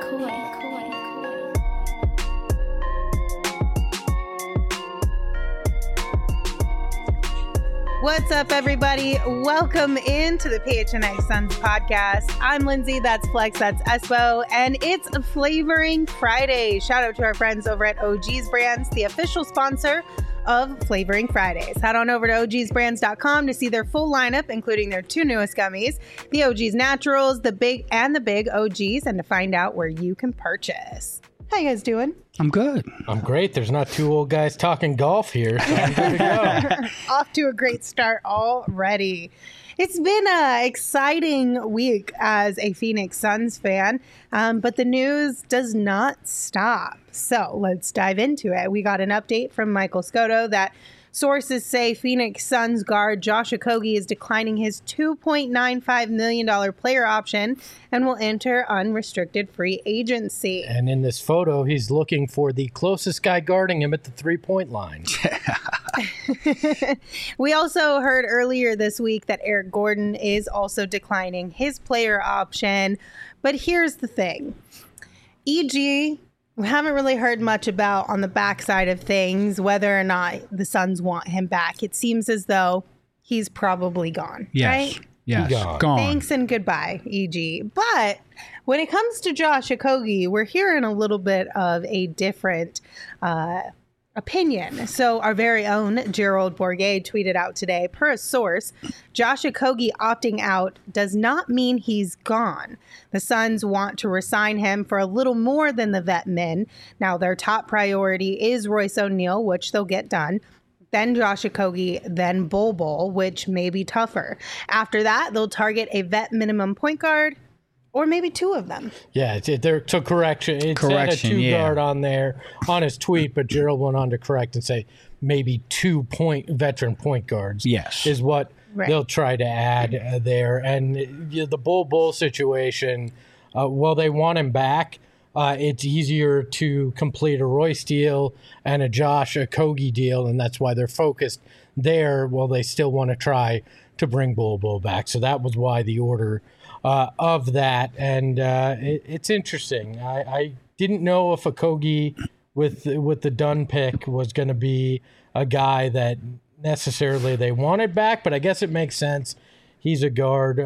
What's up, everybody? Welcome into the PHNX Suns podcast. I'm Lindsay, that's Flex, that's Espo, and it's Flavoring Friday. Shout out to our friends over at OG's Brands, the official sponsor of Flavoring Fridays. Head on over to ogsbrands.com to see their full lineup, including their two newest gummies, the OG's Naturals, the Big OGs, and to find out where you can purchase. How you guys doing? I'm good. I'm great. There's not two old guys talking golf here, so I'm good to go. Off to a great start already. It's been an exciting week as a Phoenix Suns fan, but the news does not stop. So let's dive into it. We got an update from Michael Scotto that sources say Phoenix Suns guard Josh Okogie is declining his $2.95 million player option and will enter unrestricted free agency. And in this photo, he's looking for the closest guy guarding him at the three-point line. We also heard earlier this week that Eric Gordon is also declining his player option. But here's the thing. EG, we haven't really heard much about on the backside of things, whether or not the Suns want him back. It seems as though he's probably gone, right? Yes, gone. Thanks and goodbye, EG. But when it comes to Josh Okogie, we're hearing a little bit of a different opinion. So our very own Gerald Bourguet tweeted out today, per a source, Josh Okogie opting out does not mean he's gone. The Suns want to re-sign him for a little more than the vet min. Now their top priority is Royce O'Neal, which they'll get done. Then Josh Okogie, then Bol Bol, which may be tougher. After that, they'll target a vet minimum point guard, or maybe two of them. Yeah, so correction. It said a two-guard on there on his tweet, but Gerald went on to correct and say maybe 2 veteran point guards. Yes. Is what they'll try to add there. And the Bol Bol situation, while they want him back, it's easier to complete a Royce deal and a Josh Okogie deal, and that's why they're focused there while they still want to try to bring Bol Bol back. So that was why the order of that, and it's interesting. I didn't know if Okogie with the Dunn pick was going to be a guy that necessarily they wanted back, but I guess it makes sense. He's a guard,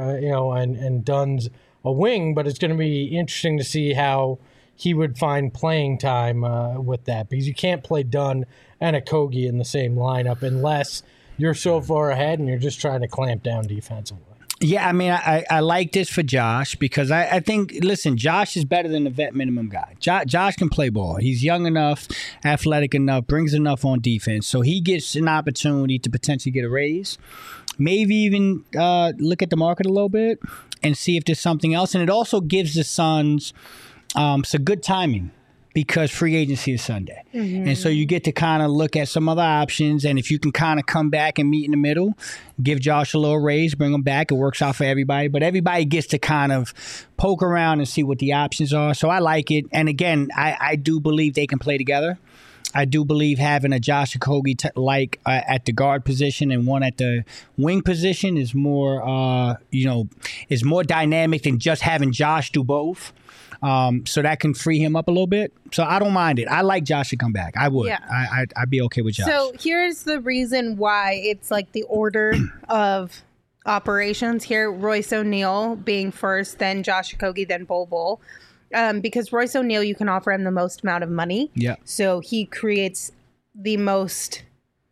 and Dunn's a wing, but it's going to be interesting to see how he would find playing time with that, because you can't play Dunn and Okogie in the same lineup unless you're so far ahead and you're just trying to clamp down defensively. Yeah, I mean, I like this for Josh because I think, listen, Josh is better than the vet minimum guy. Josh can play ball. He's young enough, athletic enough, brings enough on defense. So he gets an opportunity to potentially get a raise, maybe even look at the market a little bit and see if there's something else. And it also gives the Suns some good timing, because free agency is Sunday. Mm-hmm. And so you get to kind of look at some other options. And if you can kind of come back and meet in the middle, give Josh a little raise, bring him back, it works out for everybody. But everybody gets to kind of poke around and see what the options are. So I like it. And again, I do believe they can play together. I do believe having a Josh Okogie at the guard position and one at the wing position is more, is more dynamic than just having Josh do both. So that can free him up a little bit. So I don't mind it. I like Josh to come back. I would. Yeah. I'd be okay with Josh. So here's the reason why it's like the order of operations here. Royce O'Neal being first, then Josh Okogie, then Bol Bol. Because Royce O'Neal, you can offer him the most amount of money. Yeah. So he creates the most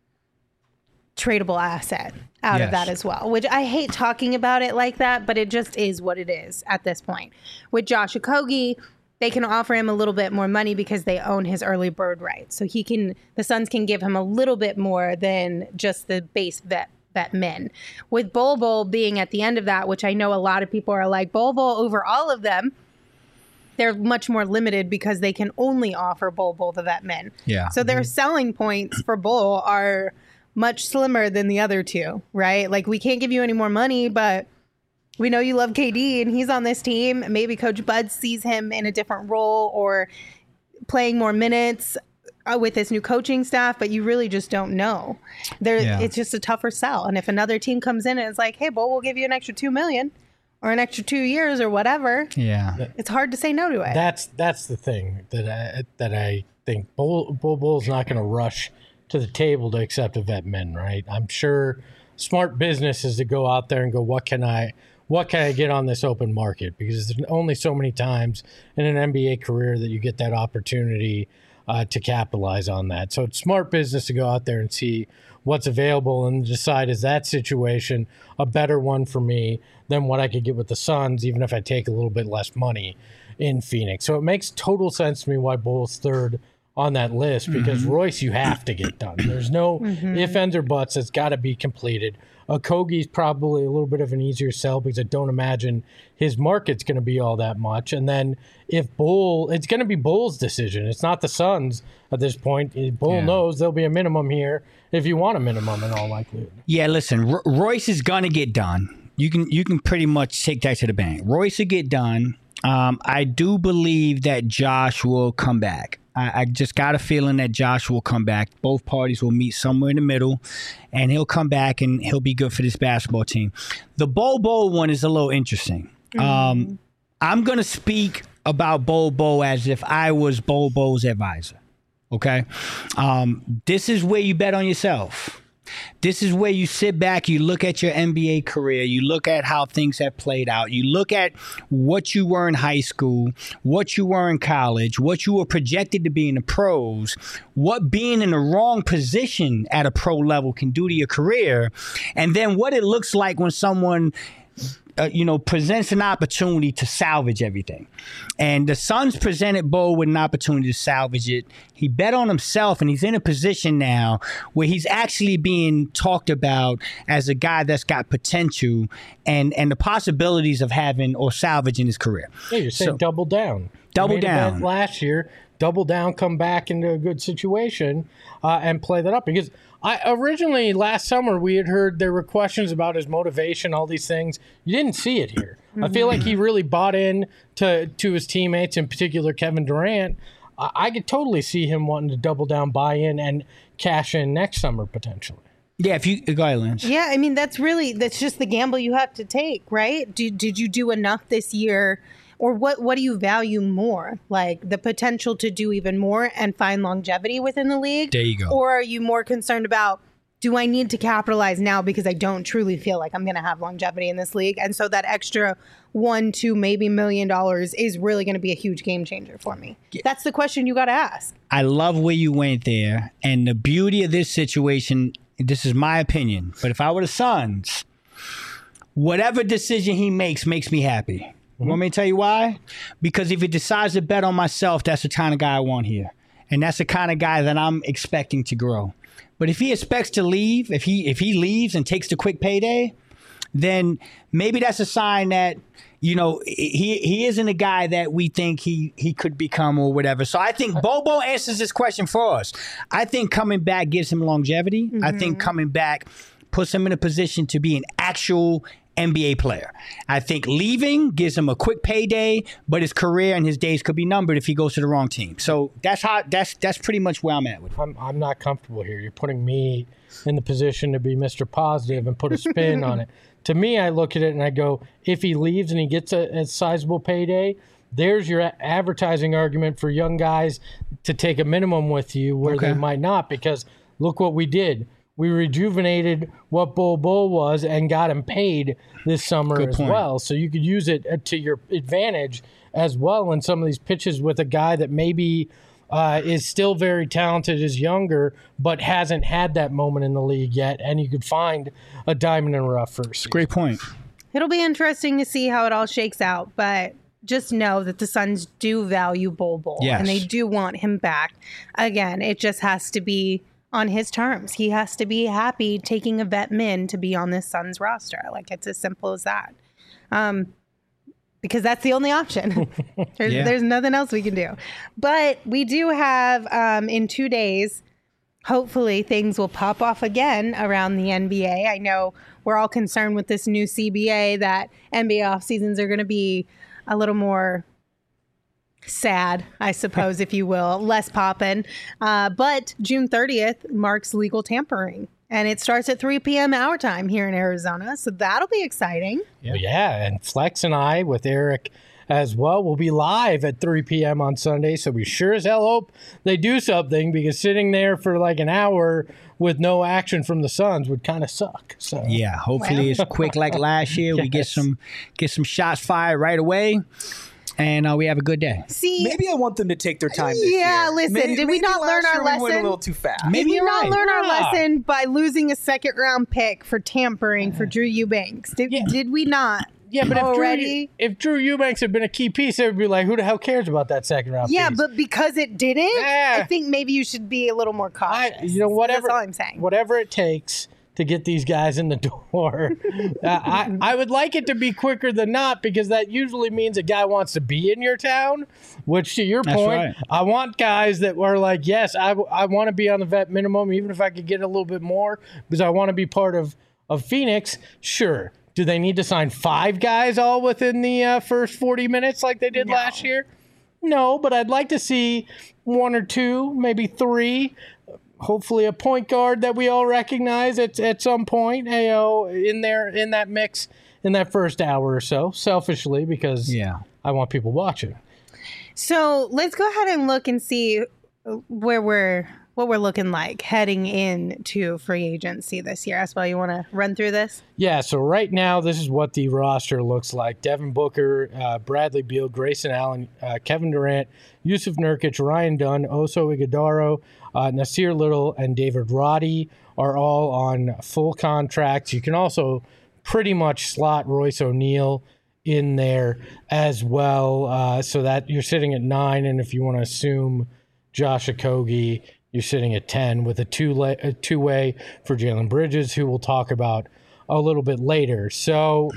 tradable asset out of that as well, which I hate talking about it like that, but it just is what it is at this point. With Josh Okogie, they can offer him a little bit more money because they own his early bird rights. So the Suns can give him a little bit more than just the base vet min. With Bol Bol being at the end of that, which I know a lot of people are like, Bol Bol over all of them, they're much more limited because they can only offer Bol Bol the vet min. Yeah. So their selling points for Bol are much slimmer than the other two, right? Like, we can't give you any more money, but we know you love KD and he's on this team. Maybe Coach Bud sees him in a different role or playing more minutes with this new coaching staff, but you really just don't know. It's just a tougher sell. And if another team comes in and it's like, hey, Bol, we'll give you an extra $2 million, or an extra 2 years or whatever. Yeah. It's hard to say no to it. That's the thing that I think Bull's not going to rush to the table to accept a vet min, right? I'm sure smart business is to go out there and go, what can I get on this open market? Because there's only so many times in an NBA career that you get that opportunity to capitalize on that. So it's smart business to go out there and see what's available and decide, is that situation a better one for me than what I could get with the Suns, even if I take a little bit less money in Phoenix. So it makes total sense to me why Bull's third on that list, because Royce, you have to get done. There's no ifs, ands, or buts. It's got to be completed. Okogie's probably a little bit of an easier sell because I don't imagine his market's going to be all that much. And then if Bull, it's going to be Bull's decision. It's not the Suns at this point. Bull knows there'll be a minimum here if you want a minimum in all likelihood. Yeah, listen, Royce is going to get done. You can pretty much take that to the bank. Royce will get done. I do believe that Josh will come back. I just got a feeling that Josh will come back. Both parties will meet somewhere in the middle, and he'll come back, and he'll be good for this basketball team. The Bol one is a little interesting. I'm going to speak about Bol as if I was Bol's advisor, okay? This is where you bet on yourself. This is where you sit back, you look at your NBA career, you look at how things have played out, you look at what you were in high school, what you were in college, what you were projected to be in the pros, what being in the wrong position at a pro level can do to your career, and then what it looks like when someone presents an opportunity to salvage everything. And the Suns presented Bol with an opportunity to salvage it. He bet on himself, and he's in a position now where he's actually being talked about as a guy that's got potential and the possibilities of having or salvaging his career. Yeah, you're saying double down. Double you made down. A bet last year, double down, come back into a good situation and play that up. Because originally last summer we had heard there were questions about his motivation, all these things. You didn't see it here. I feel like he really bought in to his teammates, in particular Kevin Durant. I could totally see him wanting to double down, buy in, and cash in next summer potentially. Yeah, if you go ahead, Lance. Yeah, I mean that's just the gamble you have to take, right? Did you do enough this year? Or what do you value more? Like the potential to do even more and find longevity within the league? There you go. Or are you more concerned about, do I need to capitalize now because I don't truly feel like I'm going to have longevity in this league? And so that extra $1, $2, maybe $1 million is really going to be a huge game changer for me. That's the question you got to ask. I love where you went there. And the beauty of this situation, this is my opinion, but if I were the Suns, whatever decision he makes me happy. Want me to tell you why? Because if he decides to bet on myself, that's the kind of guy I want here. And that's the kind of guy that I'm expecting to grow. But if he expects to leave, if he leaves and takes the quick payday, then maybe that's a sign that, he isn't a guy that we think he could become or whatever. So I think Bol answers this question for us. I think coming back gives him longevity. I think coming back puts him in a position to be an actual NBA player. I think leaving gives him a quick payday, but his career and his days could be numbered if he goes to the wrong team. So that's pretty much where I'm at with it. I'm not comfortable here. You're putting me in the position to be Mr. Positive and put a spin on it. To me, I look at it and I go, if he leaves and he gets a sizable payday, there's your advertising argument for young guys to take a minimum with you where they might not, because look what we did. We rejuvenated what Bol was and got him paid this summer as well. So you could use it to your advantage as well in some of these pitches with a guy that maybe is still very talented, is younger, but hasn't had that moment in the league yet. And you could find a diamond in the rough first. Great point. It'll be interesting to see how it all shakes out, but just know that the Suns do value Bol. Yes. And they do want him back. Again, it just has to be on his terms. He has to be happy taking a vet min to be on this Suns roster. Like, it's as simple as that. Because that's the only option. There's nothing else we can do. But we do have, in 2 days, hopefully things will pop off again around the NBA. I know we're all concerned with this new CBA that NBA off seasons are going to be a little more sad, I suppose, if you will, less poppin'. But June 30th marks legal tampering And it starts at 3 p.m. our time here in Arizona, so that'll be exciting. Yeah, and Flex and I with Eric as well will be live at 3 p.m. on Sunday, so we sure as hell hope they do something, because sitting there for like an hour with no action from the Suns would kind of suck. So Yeah, hopefully it's quick like last year. We get some shots fired right away, and we have a good day. See, Maybe I want them to take their time this yeah, year. listen, did we not learn last our year we went a lesson? little too fast. Maybe did we you're not right. learn our Yeah. lesson by losing a second-round pick for tampering for Drew Eubanks? Did we not? Yeah, but already? if Drew Eubanks had been a key piece, they would be like, who the hell cares about that second round Yeah, piece? but because it didn't, Yeah. I think maybe you should be a little more cautious. whatever. That's all I'm saying. Whatever it takes to get these guys in the door. I would like it to be quicker than not, because that usually means a guy wants to be in your town, which to your That's point, right. I want guys that were like, yes, I want to be on the vet minimum, even if I could get a little bit more, because I want to be part of Phoenix. Sure. Do they need to sign 5 guys all within the first 40 minutes like they did last year? No, but I'd like to see 1 or 2, maybe 3. Hopefully a point guard that we all recognize at some point, in that mix in that first hour or so, selfishly, because I want people watching. So let's go ahead and look and see what we're looking like heading into free agency this year. Espo, you want to run through this? Yeah, so right now, this is what the roster looks like. Devin Booker, Bradley Beal, Grayson Allen, Kevin Durant, Yusuf Nurkic, Ryan Dunn, Oso Ighodaro, Nasir Little, and David Roddy are all on full contracts. You can also pretty much slot Royce O'Neal in there as well, so that you're sitting at 9, and if you want to assume Josh Okogie, you're sitting at 10 with a two-way for Jalen Bridges, who we'll talk about a little bit later. So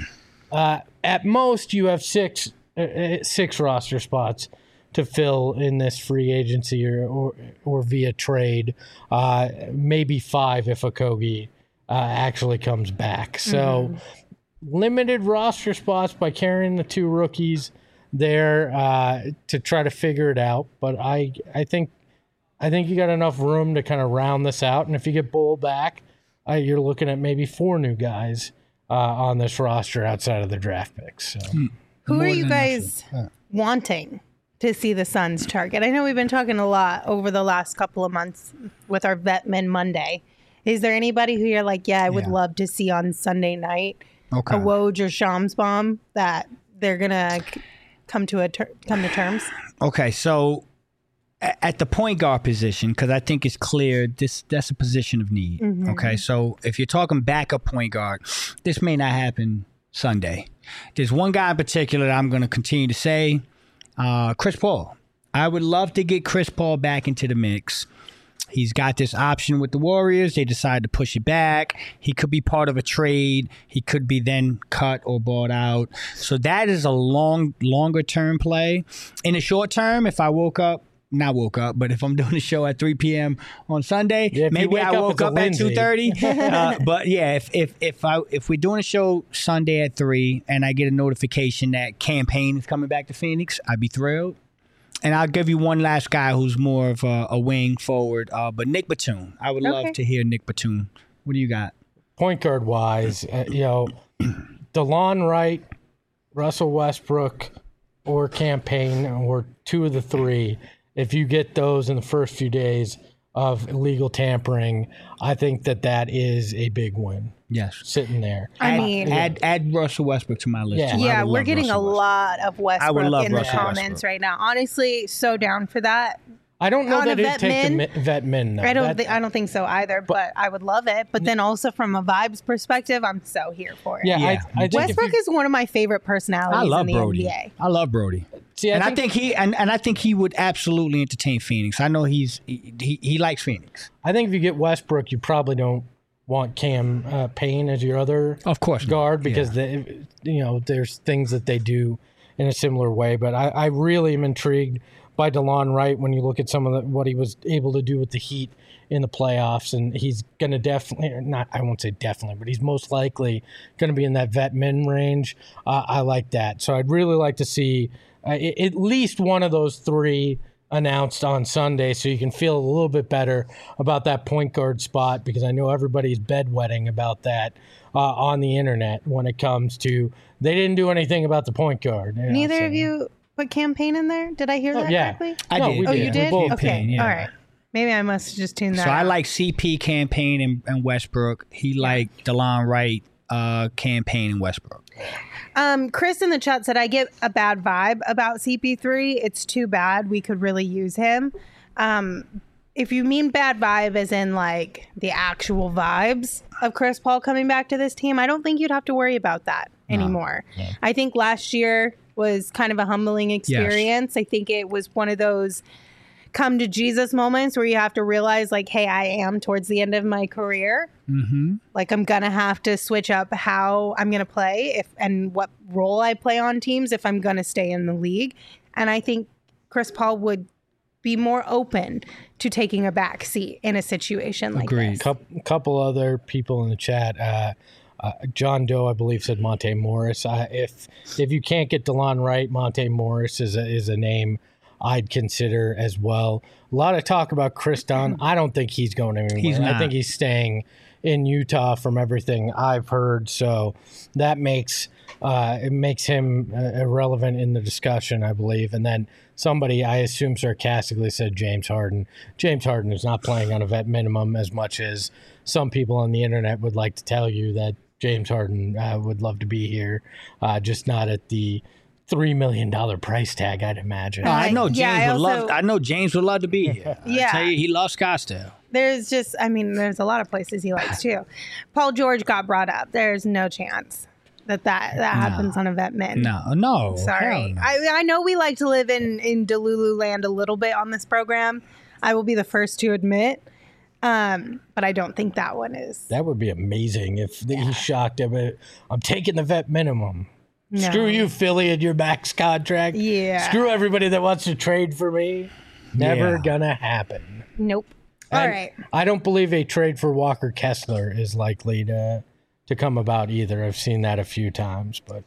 at most, you have six roster spots to fill in this free agency or via trade, maybe 5 if Okogie actually comes back. So limited roster spots by carrying the 2 rookies there to try to figure it out. But I think you got enough room to kind of round this out. And if you get Bull back, you're looking at maybe 4 new guys on this roster outside of the draft picks. So. Who are you guys wanting to see the Suns target? I know we've been talking a lot over the last couple of months with our Vetman Monday. Is there anybody who you're like, I would love to see on Sunday night, a Woj or Shamsbaum, that they're going to come to terms? Okay, so at the point guard position, because I think it's clear that's a position of need. Okay, so if you're talking backup point guard, this may not happen Sunday. There's one guy in particular that I'm going to continue to say, Chris Paul. I would love to get Chris Paul back into the mix. He's got this option with the Warriors. They decided to push it back. He could be part of a trade. He could be then cut or bought out. So that is a longer term play. In the short term, if I but if I'm doing a show at 3 p.m. on Sunday, maybe I woke up at 2:30. But yeah, if we're doing a show Sunday at 3 and I get a notification that Campaign is coming back to Phoenix, I'd be thrilled. And I'll give you one last guy who's more of a wing forward, but Nick Batum. I would love to hear Nick Batum. What do you got? Point guard wise, DeLon Wright, Russell Westbrook, or Campaign, or 2 of the 3. If you get those in the first few days of illegal tampering, I think that is a big win. Yes. Sitting there. Add Russell Westbrook to my list. Yeah, we're getting a lot of Westbrook in the comments right now. Honestly, so down for that. I don't know that it'd take the vet min. Though. I don't think so either, but I would love it. But then also from a vibes perspective, I'm so here for it. Yeah. I Westbrook is one of my favorite personalities in the NBA. I love Brody. See, I think he would absolutely entertain Phoenix. I know he likes Phoenix. I think if you get Westbrook, you probably don't want Cam Payne as your other guard because there's things that they do in a similar way. But I really am intrigued by DeLon Wright when you look at some of what he was able to do with the Heat in the playoffs, and he's going to I won't say definitely, but he's most likely going to be in that vet min range. I like that. So I'd really like to see at least one of those 3 announced on Sunday, so you can feel a little bit better about that point guard spot, because I know everybody's bedwetting about that on the internet when it comes to they didn't do anything about the point guard. Neither of you put campaign in there? Did I hear that correctly? I did. We Oh, you did? both Okay. yeah. All right. Maybe I must have just tuned that So out. I like CP campaign in Westbrook. He liked DeLon Wright campaign in Westbrook. Chris in the chat said, I get a bad vibe about CP3. It's too bad. We could really use him. If you mean bad vibe as in like the actual vibes of Chris Paul coming back to this team, I don't think you'd have to worry about that anymore. No. I think last year was kind of a humbling experience. Yes. I think it was one of those come to Jesus moments where you have to realize like, hey, I am towards the end of my career. Mm-hmm. Like I'm going to have to switch up how I'm going to play and what role I play on teams if I'm going to stay in the league. And I think Chris Paul would be more open to taking a back seat in a situation like this. Couple other people in the chat. John Doe, I believe, said Monte Morris. If you can't get DeLon Wright, Monte Morris is a name I'd consider as well. A lot of talk about Chris Dunn. I don't think he's going anywhere. I think he's staying in Utah from everything I've heard. So that makes him irrelevant in the discussion, I believe. And then somebody, I assume sarcastically, said James Harden. James Harden is not playing on a vet minimum as much as some people on the internet would like to tell you that James Harden would love to be here, just not at the $3 million price tag, I'd imagine. I know James would love to be here. I tell you, he loves Scottsdale. There's a lot of places he likes too. Paul George got brought up. There's no chance that happens on a vet min. No. Sorry. No. I know we like to live in Delulu land a little bit on this program. I will be the first to admit. But I don't think that one is. That would be amazing if he's shocked at it. I'm taking the vet minimum. No. Screw you, Philly, and your max contract. Yeah. Screw everybody that wants to trade for me. Never gonna happen. Nope. All right. I don't believe a trade for Walker Kessler is likely to come about either. I've seen that a few times, but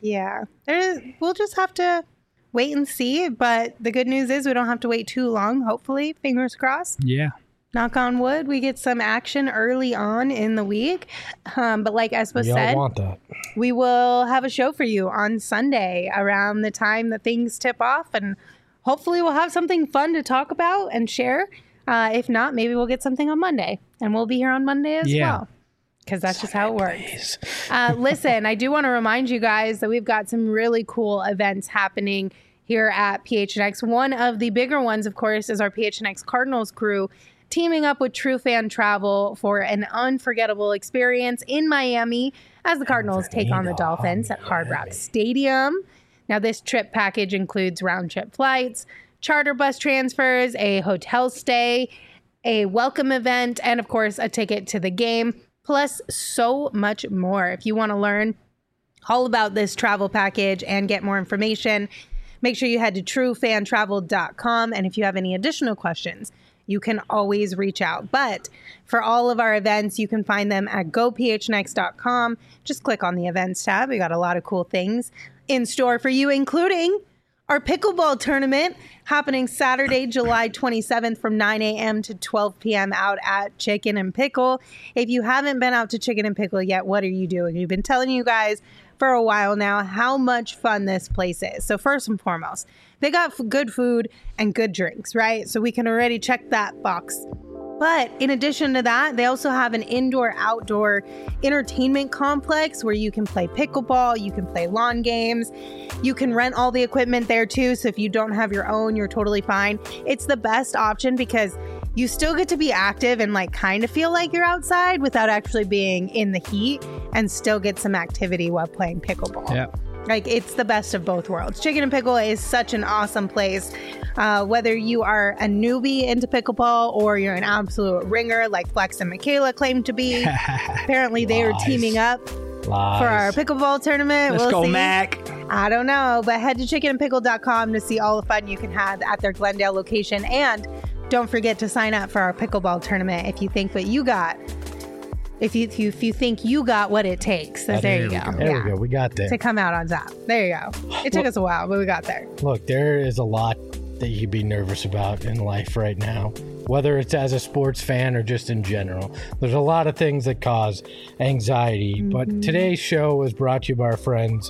we'll just have to wait and see. But the good news is we don't have to wait too long. Hopefully, fingers crossed. Yeah. Knock on wood, we get some action early on in the week. But like Espo said, want that. We will have a show for you on Sunday around the time that things tip off. And hopefully we'll have something fun to talk about and share. If not, maybe we'll get something on Monday. And we'll be here on Monday as well. Because that's just how it works. Listen, I do want to remind you guys that we've got some really cool events happening here at PHNX. One of the bigger ones, of course, is our PHNX Cardinals crew teaming up with True Fan Travel for an unforgettable experience in Miami as the Cardinals take on the Dolphins at Hard Rock Stadium. Now, this trip package includes round-trip flights, charter bus transfers, a hotel stay, a welcome event, and, of course, a ticket to the game, plus so much more. If you want to learn all about this travel package and get more information, make sure you head to truefantravel.com. And if you have any additional questions, you can always reach out. But for all of our events, you can find them at gophnx.com. Just click on the events tab. We got a lot of cool things in store for you, including our pickleball tournament happening Saturday, July 27th from 9 a.m. to 12 p.m. out at Chicken and Pickle. If you haven't been out to Chicken and Pickle yet, what are you doing? We've been telling you guys for a while now how much fun this place is. So first and foremost, they got good food and good drinks, right? So we can already check that box. But in addition to that, they also have an indoor-outdoor entertainment complex where you can play pickleball, you can play lawn games, you can rent all the equipment there too. So if you don't have your own, you're totally fine. It's the best option because you still get to be active and like kind of feel like you're outside without actually being in the heat and still get some activity while playing pickleball. Yeah. Like, it's the best of both worlds. Chicken and Pickle is such an awesome place. Whether you are a newbie into pickleball or you're an absolute ringer like Flex and Michaela claim to be. Apparently, they are teaming up for our pickleball tournament. Let's go, Mac. I don't know, but head to chickenandpickle.com to see all the fun you can have at their Glendale location. And don't forget to sign up for our pickleball tournament if you think what you got. If you think you got what it takes. So there you go. There we go. We got there. To come out on top. There you go. It took us a while, but we got there. Look, there is a lot that you be nervous about in life right now, whether it's as a sports fan or just in general. There's a lot of things that cause anxiety, but today's show is brought to you by our friends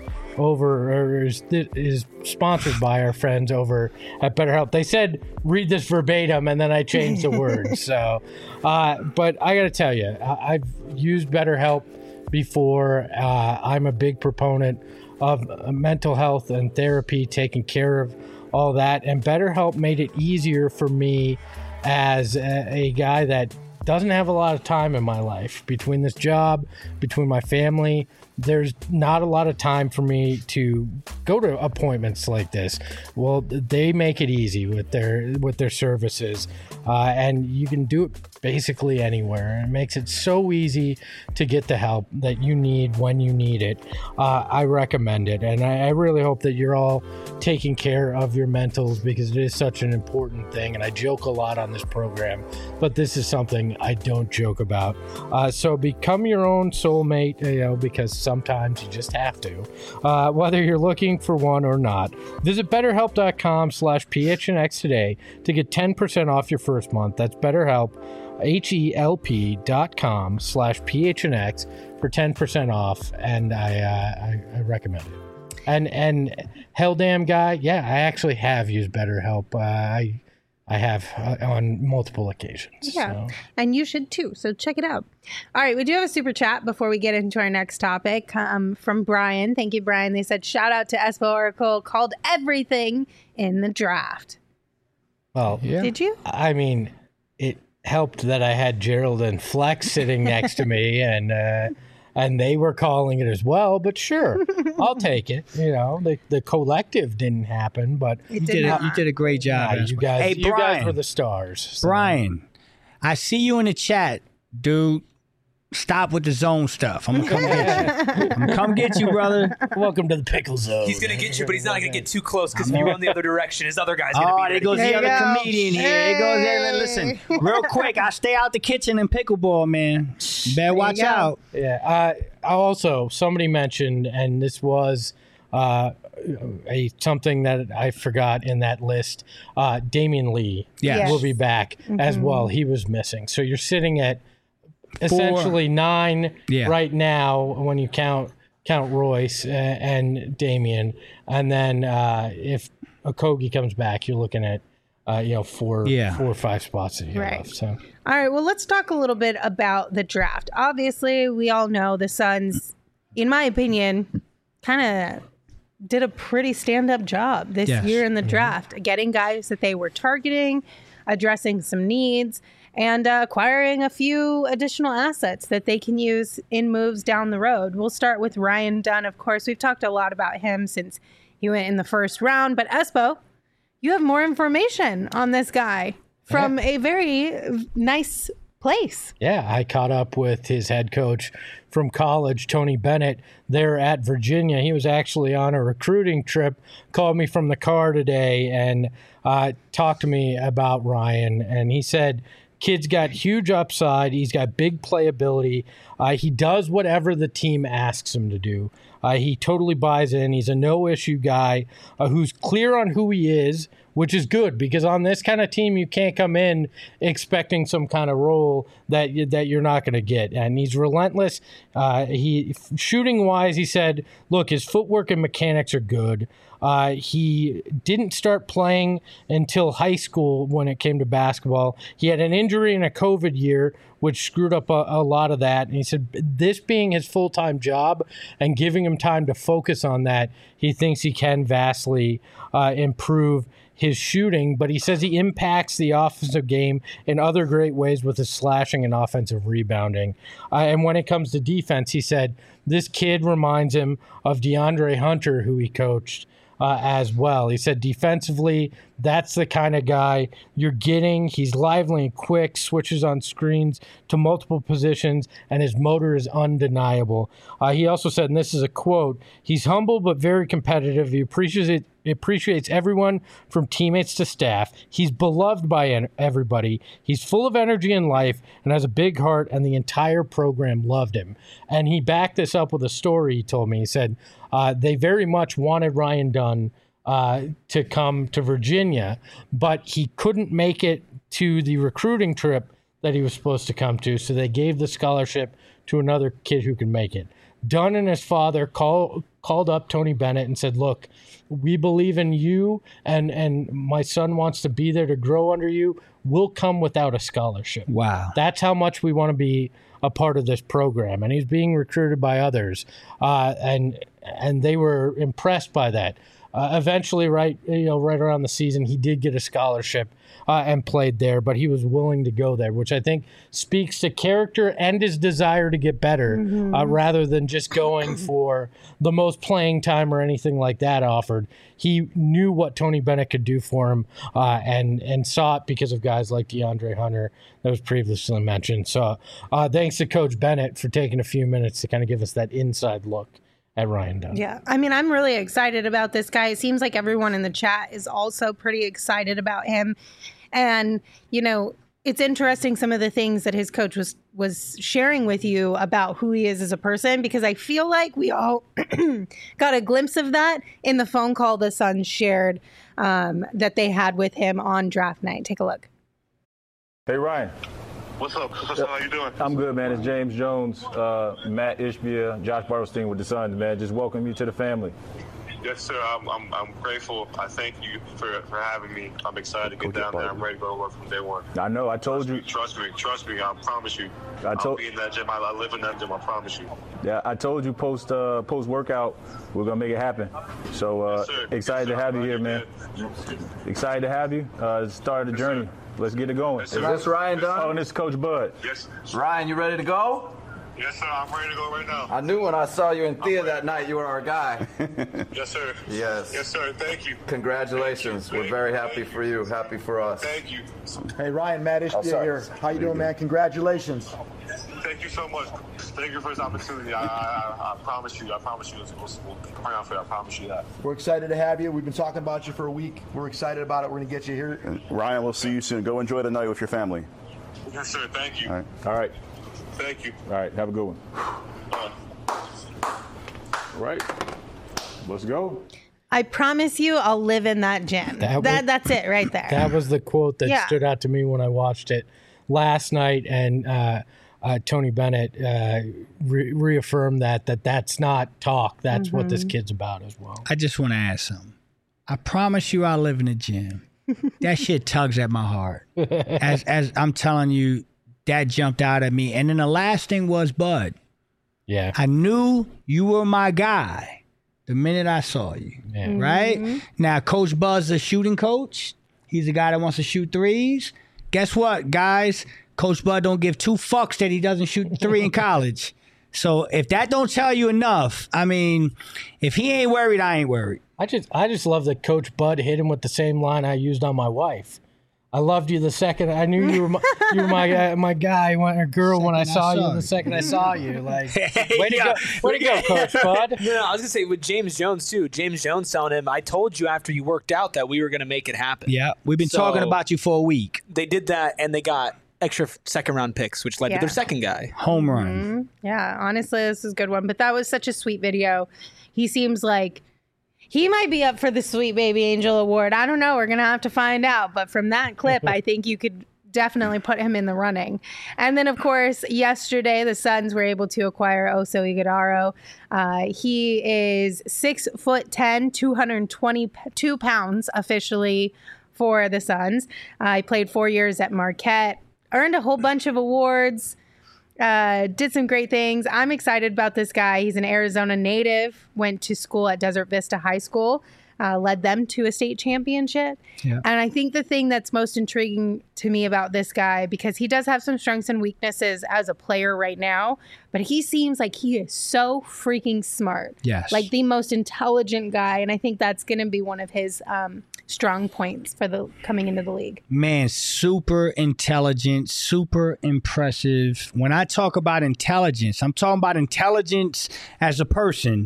is sponsored by our friends over at BetterHelp. They said read this verbatim, and then I changed the words. So, but I got to tell you, I've used BetterHelp before. I'm a big proponent of mental health and therapy, taking care of all that, and BetterHelp made it easier for me as a guy that doesn't have a lot of time in my life. Between this job, between my family, there's not a lot of time for me to go to appointments like this. Well, they make it easy with their services, and you can do it basically anywhere. It makes it so easy to get the help that you need when you need it. I recommend it, and I really hope that you're all taking care of your mentals, because it is such an important thing. And I joke a lot on this program, but this is something I don't joke about. So become your own soulmate, because sometimes you just have to, whether you're looking for one or not. Visit BetterHelp.com/PHNX today to get 10% off your first month. That's BetterHelp, HELP.com/PHNX for 10% off, and I recommend it. And hell damn guy, yeah, I actually have used BetterHelp. I have on multiple occasions. Yeah, so. And you should too. So check it out. All right, we do have a super chat before we get into our next topic from Brian. Thank you, Brian. They said, shout out to Espo Oracle, called everything in the draft. Well, Yeah. Did you? I mean, it helped that I had Gerald and Flex sitting next to me, and they were calling it as well. But sure, I'll take it. The collective didn't happen, but It You did not. did a great job. you guys, Hey, you guys Brian. were the stars. So. Brian, I see you in the chat, dude. Stop with the zone stuff. I'm gonna come get you. I'm gonna come get you, brother. Welcome to the pickle zone. He's gonna get you, but he's not gonna get too close because if you run the other direction, his other guy's gonna Oh, be there ready. goes There the you other go. comedian here. There goes there. Listen, real quick, I stay out the kitchen and pickleball, man. Better watch go. out. Yeah. Also, somebody mentioned, and this was something that I forgot in that list. Damian Lee Yes. will be back as well. He was missing. So you're sitting at essentially 9 Yeah. right now when you count Royce and Damian, and then if Okogie comes back, you're looking at 4 or 5 spots that you Right. have. So. All right, well, let's talk a little bit about the draft. Obviously, we all know the Suns, in my opinion, kind of did a pretty stand-up job this Yes. year in the draft, getting guys that they were targeting, addressing some needs, and acquiring a few additional assets that they can use in moves down the road. We'll start with Ryan Dunn, of course. We've talked a lot about him since he went in the first round, but Espo, you have more information on this guy from a very nice place. Yeah, I caught up with his head coach from college, Tony Bennett, there at Virginia. He was actually on a recruiting trip, called me from the car today and talked to me about Ryan. And he said, kid's got huge upside. He's got big playability. He does whatever the team asks him to do. He totally buys in. He's a no-issue guy who's clear on who he is, which is good because on this kind of team, you can't come in expecting some kind of role that you're not going to get. And he's relentless. Shooting-wise, he said, look, his footwork and mechanics are good. He didn't start playing until high school when it came to basketball. He had an injury in a COVID year, which screwed up a lot of that. And he said this being his full-time job and giving him time to focus on that, he thinks he can vastly improve his shooting, but he says he impacts the offensive game in other great ways with his slashing and offensive rebounding. And when it comes to defense, he said this kid reminds him of DeAndre Hunter, who he coached as well. He said defensively, that's the kind of guy you're getting. He's lively and quick, switches on screens to multiple positions, and his motor is undeniable. He also said, and this is a quote, he's humble but very competitive. He appreciates everyone from teammates to staff. He's beloved by everybody. He's full of energy and life and has a big heart, and the entire program loved him. And he backed this up with a story he told me. He said they very much wanted Ryan Dunn to come to Virginia, but he couldn't make it to the recruiting trip that he was supposed to come to, so they gave the scholarship to another kid who could make it. Dunn and his father called up Tony Bennett and said, look, we believe in you, and my son wants to be there to grow under you. We'll come without a scholarship. Wow. That's how much we want to be a part of this program. And he's being recruited by others. And they were impressed by that. Eventually, right around the season, he did get a scholarship and played there, but he was willing to go there, which I think speaks to character and his desire to get better, rather than just going for the most playing time or anything like that offered. He knew what Tony Bennett could do for him, and saw it because of guys like DeAndre Hunter that was previously mentioned. So thanks to Coach Bennett for taking a few minutes to kind of give us that inside look at Ryan Dunn. Yeah, I mean, I'm really excited about this guy. It seems like everyone in the chat is also pretty excited about him. And, it's interesting some of the things that his coach was sharing with you about who he is as a person, because I feel like we all got a glimpse of that in the phone call the Suns shared that they had with him on draft night. Take a look. Hey, Ryan. What's up? How you doing? I'm good, man. It's James Jones, Matt Ishbia, Josh Bartelstein with the Suns, man. Just welcome you to the family. Yes, sir. I'm grateful. I thank you for having me. I'm excited to get down there. I'm ready to go to work from day one. I know. I told you. Trust me. I promise you. I'll be in that gym. I live in that gym. I promise you. Yeah, I told you post workout, we're gonna make it happen. So excited to have you here, man. Excited to have you. Start the journey. Let's get it going. Yes, Is this Ryan Dunn? Oh, and this is Coach Bud. Yes. Ryan, you ready to go? Yes, sir. I'm ready to go right now. I knew when I saw you in Thea that night you were our guy. Yes, sir. Yes. Yes, sir. Thank you. Congratulations. We're very happy for you. Happy for us. Thank you. Hey, Ryan, Matt Ishbia here. How you doing, man? Congratulations. Thank you so much. Thank you for this opportunity. I promise you. We'll bring out for you. I promise you that. We're excited to have you. We've been talking about you for a week. We're excited about it. We're going to get you here. And Ryan, we'll see you soon. Go enjoy the night with your family. Yes, sir. Thank you. All right. Thank you. All right. Have a good one. All right. Let's go. I promise you I'll live in that gym. That's it right there. That was the quote that stood out to me when I watched it last night, and Tony Bennett reaffirmed that's not talk. That's what this kid's about as well. I just want to ask something. I promise you I'll live in the gym. That shit tugs at my heart. As I'm telling you, that jumped out at me. And then the last thing was Bud. Yeah. I knew you were my guy the minute I saw you. Yeah. Right? Now, Coach Bud's a shooting coach. He's a guy that wants to shoot threes. Guess what, guys? Coach Bud don't give two fucks that he doesn't shoot three in college. So if that don't tell you enough, I mean, if he ain't worried, I ain't worried. I just love that Coach Bud hit him with the same line I used on my wife. I loved you the second I knew you were my guy or girl when I saw you. The second I saw you, like, way to go, Coach Bud. No, I was gonna say with James Jones too. James Jones telling him, "I told you after you worked out that we were gonna make it happen." Yeah, we've been talking about you for a week. They did that, and they got extra second-round picks, which led to their second guy. Home run. Yeah, honestly, this is a good one. But that was such a sweet video. He seems like he might be up for the Sweet Baby Angel Award. I don't know. We're going to have to find out. But from that clip, I think you could definitely put him in the running. And then, of course, yesterday, the Suns were able to acquire Oso Ighodaro. He is 6'10", 222 pounds officially for the Suns. He played 4 years at Marquette, earned a whole bunch of awards. Did some great things. I'm excited about this guy. He's an Arizona native, went to school at Desert Vista High School, led them to a state championship. Yeah. And I think the thing that's most intriguing to me about this guy, because he does have some strengths and weaknesses as a player right now, but he seems like he is so freaking smart. Yes. Like the most intelligent guy. And I think that's going to be one of his strong points for the coming into the league. Man, super intelligent, super impressive. When I talk about intelligence, I'm talking about intelligence as a person,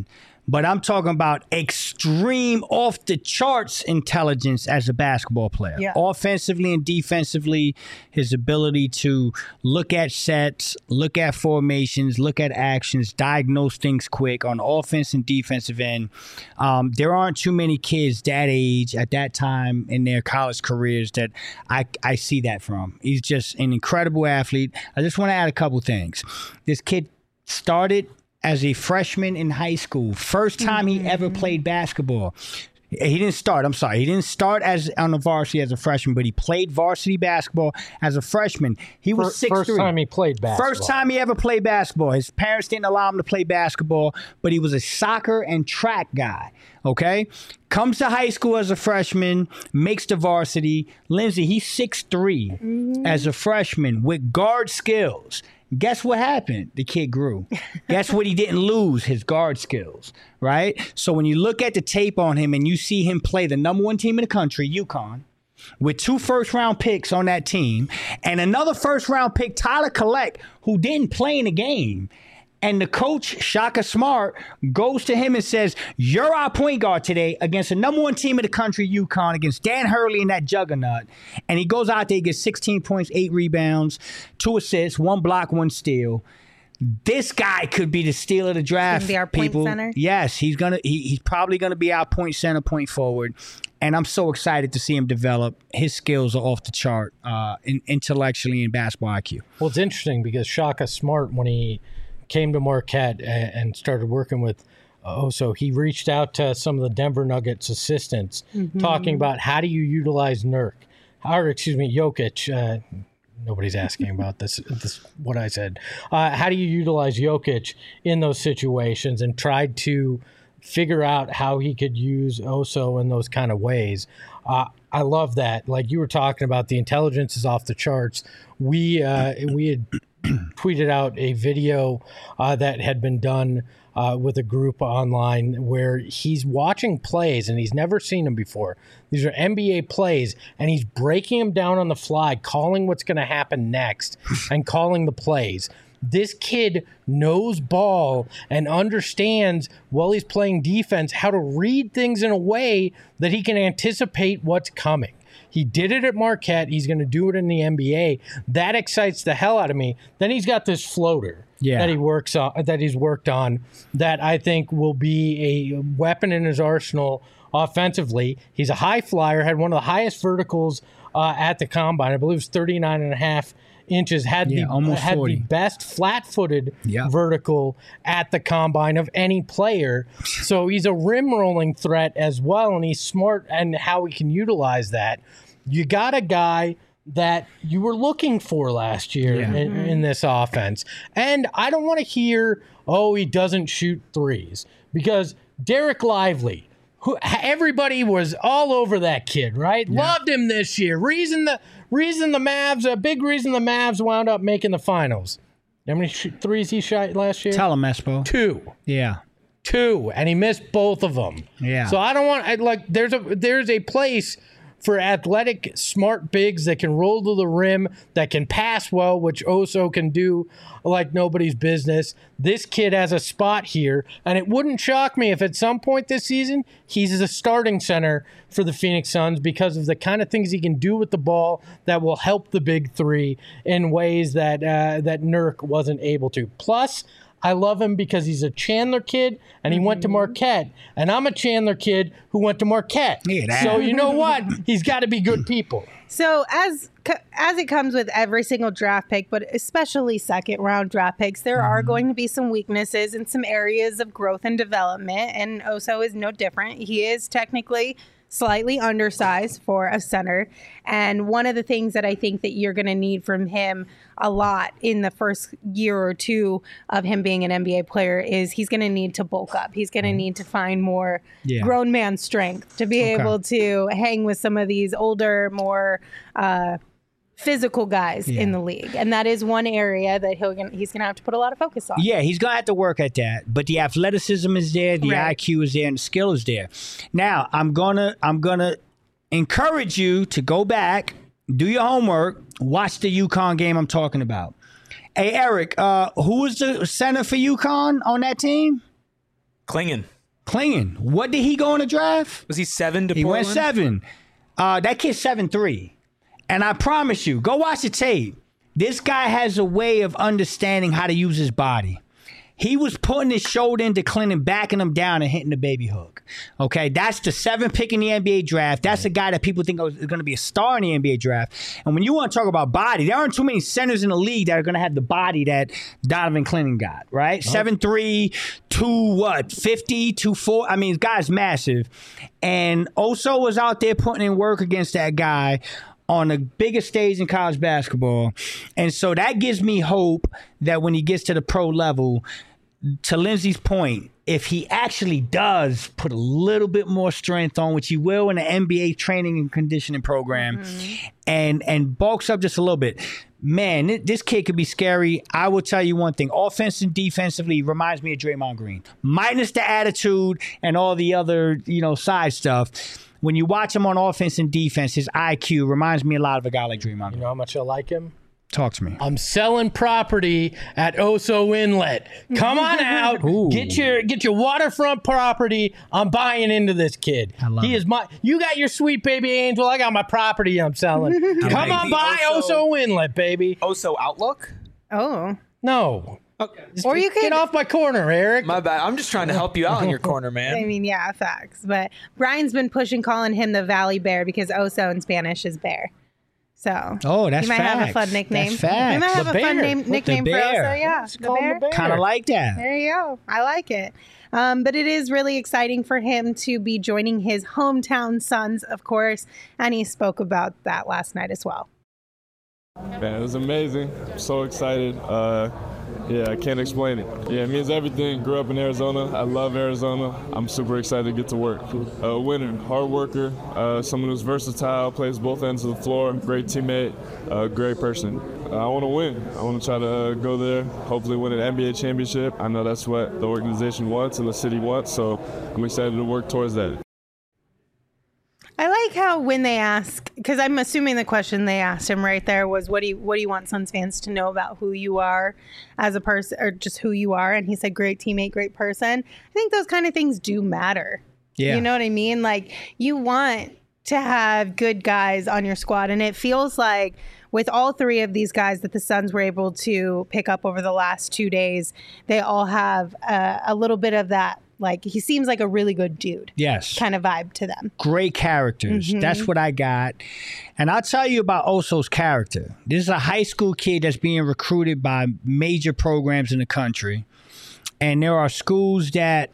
but I'm talking about extreme, off the charts intelligence as a basketball player. Yeah. Offensively and defensively, his ability to look at sets, look at formations, look at actions, diagnose things quick on offense and defensive end. There aren't too many kids that age at that time in their college careers that I see that from. He's just an incredible athlete. I just want to add a couple things. This kid started as a freshman in high school. First time he ever played basketball. He didn't start as on the varsity as a freshman, but he played varsity basketball as a freshman. He was 6'3". First time he played basketball. First time he ever played basketball. His parents didn't allow him to play basketball, but he was a soccer and track guy, okay? Comes to high school as a freshman, makes the varsity. Lindsay, he's 6'3" as a freshman with guard skills. Guess what happened? The kid grew. Guess what he didn't lose? His guard skills, right? So when you look at the tape on him and you see him play the number one team in the country, UConn, with 2 first-round picks on that team, and another first-round pick, Tyler Collect, who didn't play in the game, and the coach, Shaka Smart, goes to him and says, you're our point guard today against the number one team in the country, UConn, against Dan Hurley and that juggernaut. And he goes out there, gets 16 points, 8 rebounds, 2 assists, 1 block, 1 steal. This guy could be the steal of the draft. He's gonna be our point center? Yes, he's probably gonna be our point center, point forward. And I'm so excited to see him develop. His skills are off the chart, intellectually and basketball IQ. Well, it's interesting because Shaka Smart, when he came to Marquette and started working with Oso, he reached out to some of the Denver Nuggets assistants talking about how do you utilize Jokic. Nobody's asking about this what I said. How do you utilize Jokic in those situations, and tried to figure out how he could use Oso in those kind of ways. I love that. Like you were talking about, the intelligence is off the charts. We had tweeted out a video that had been done with a group online where he's watching plays and he's never seen them before. These are NBA plays, and he's breaking them down on the fly, calling what's going to happen next and calling the plays. This kid knows ball and understands, while he's playing defense, how to read things in a way that he can anticipate what's coming. He did it at Marquette. He's going to do it in the NBA. That excites the hell out of me. Then he's got this floater that he works on, that he's worked on, that I think will be a weapon in his arsenal offensively. He's a high flyer, had one of the highest verticals at the combine. I believe it was 39.5 inches, had the best flat-footed vertical at the combine of any player. So he's a rim rolling threat as well, and he's smart and how he can utilize that. You got a guy that you were looking for last year in this offense. And I don't want to hear, he doesn't shoot threes, because Derek Lively, everybody was all over that kid, right? Yeah. Loved him this year. A big reason the Mavs wound up making the finals. How many threes he shot last year? Tell him, Espo. 2. Yeah. 2, and he missed both of them. Yeah. So I don't want there's a place for athletic, smart bigs that can roll to the rim, that can pass well, which Oso can do like nobody's business. This kid has a spot here, and it wouldn't shock me if at some point this season he's the starting center for the Phoenix Suns, because of the kind of things he can do with the ball that will help the big three in ways that that Nurk wasn't able to. Plus, I love him because he's a Chandler kid, and he went to Marquette. And I'm a Chandler kid who went to Marquette. So you know what? He's got to be good people. So as it comes with every single draft pick, but especially second-round draft picks, there are going to be some weaknesses in some areas of growth and development, and Oso is no different. He is technically slightly undersized for a center. And one of the things that I think that you're going to need from him a lot in the first year or two of him being an NBA player is he's going to need to bulk up. He's going to need to find more grown man strength to be able to hang with some of these older, more physical guys in the league. And that is one area that he's going to have to put a lot of focus on. Yeah, he's going to have to work at that. But the athleticism is there, the IQ is there, and the skill is there. Now, I'm going to encourage you to go back, do your homework, watch the UConn game I'm talking about. Hey, Eric, who was the center for UConn on that team? Klingon. Clingan. What did he go in the draft? Was he 7 to He Portland? went 7. That kid's 7'3". And I promise you, go watch the tape. This guy has a way of understanding how to use his body. He was putting his shoulder into Clinton, backing him down and hitting the baby hook. Okay, that's the 7th pick in the NBA draft. That's a guy that people think is going to be a star in the NBA draft. And when you want to talk about body, there aren't too many centers in the league that are going to have the body that Donovan Clinton got, right? 7'3", 250, 240. I mean, this guy's massive. And Oso was out there putting in work against that guy on the biggest stage in college basketball. And so that gives me hope that when he gets to the pro level, to Lindsay's point, if he actually does put a little bit more strength on, which he will in the NBA training and conditioning program, and bulks up just a little bit, man, this kid could be scary. I will tell you one thing. Offense and defensively reminds me of Draymond Green. Minus the attitude and all the other, side stuff. When you watch him on offense and defense, his IQ reminds me a lot of a guy like Draymond Green. You know how much I like him? Talk to me. I'm selling property at Oso Inlet. Come on out. Get your waterfront property. I'm buying into this kid. He is my. You got your sweet baby angel. I got my property I'm selling. Come on by Oso Inlet, baby. Oso Outlook? Oh. No. Okay. Or you could get off my corner, Eric. My bad. I'm just trying to help you out in your corner, man. I mean, yeah, facts. But Brian's been calling him the Valley Bear because Oso in Spanish is bear. So that's you might facts. have a fun nickname. That's facts. You might have The a bear. fun nickname for Oso. Yeah, the bear. Kind of like that. There you go. I like it. But it is really exciting for him to be joining his hometown Suns, of course, and he spoke about that last night as well. Man, it was amazing. I'm so excited. I can't explain it. Yeah, it means everything. Grew up in Arizona. I love Arizona. I'm super excited to get to work. A winner, hard worker, someone who's versatile, plays both ends of the floor, great teammate, great person. I want to win. I want to try to go there, hopefully win an NBA championship. I know that's what the organization wants and the city wants, so I'm excited to work towards that. I like how when they ask, because I'm assuming the question they asked him right there was, what do you want Suns fans to know about who you are as a person, or just who you are? And he said, great teammate, great person. I think those kind of things do matter. Yeah. You know what I mean? Like, you want to have good guys on your squad. And it feels like with all 3 of these guys that the Suns were able to pick up over the last 2 days, they all have a little bit of that. Like, he seems like a really good dude. Yes. Kind of vibe to them. Great characters. That's what I got. And I'll tell you about Oso's character. This is a high school kid that's being recruited by major programs in the country. And there are schools that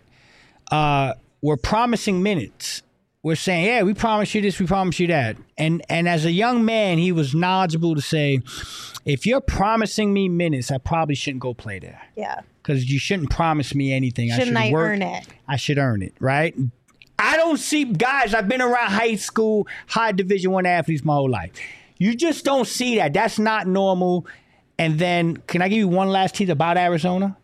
were promising minutes. We're saying, yeah, we promise you this, we promise you that. And as a young man, he was knowledgeable to say, if you're promising me minutes, I probably shouldn't go play there. Yeah. Because you shouldn't promise me anything. Shouldn't I earn it? I should earn it, right? I don't see guys. I've been around high school, high Division I athletes my whole life. You just don't see that. That's not normal. And then, can I give you one last tease about Arizona?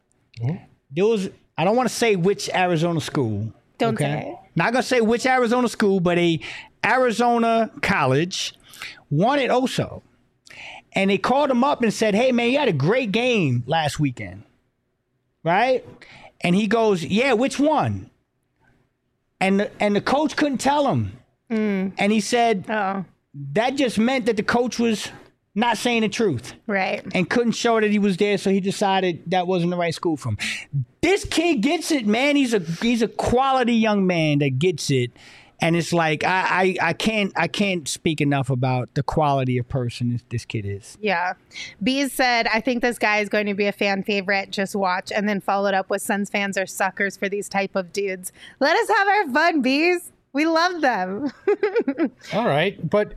There was, I don't want to say which Arizona school. Don't say it. Not gonna say which Arizona school, but a Arizona college wanted Oso, and they called him up and said, "Hey man, you had a great game last weekend, right?" And he goes, "Yeah, which one?" And the coach couldn't tell him, and he said, "That just meant that the coach was not saying the truth, right? And couldn't show that he was there, so he decided that wasn't the right school for him." This kid gets it, man. He's a quality young man that gets it, and it's like I can't speak enough about the quality of person this kid is. Yeah, Bees said, "I think this guy is going to be a fan favorite. Just watch," and then followed up with, "Suns fans are suckers for these type of dudes. Let us have our fun, Bees. We love them." All right, but.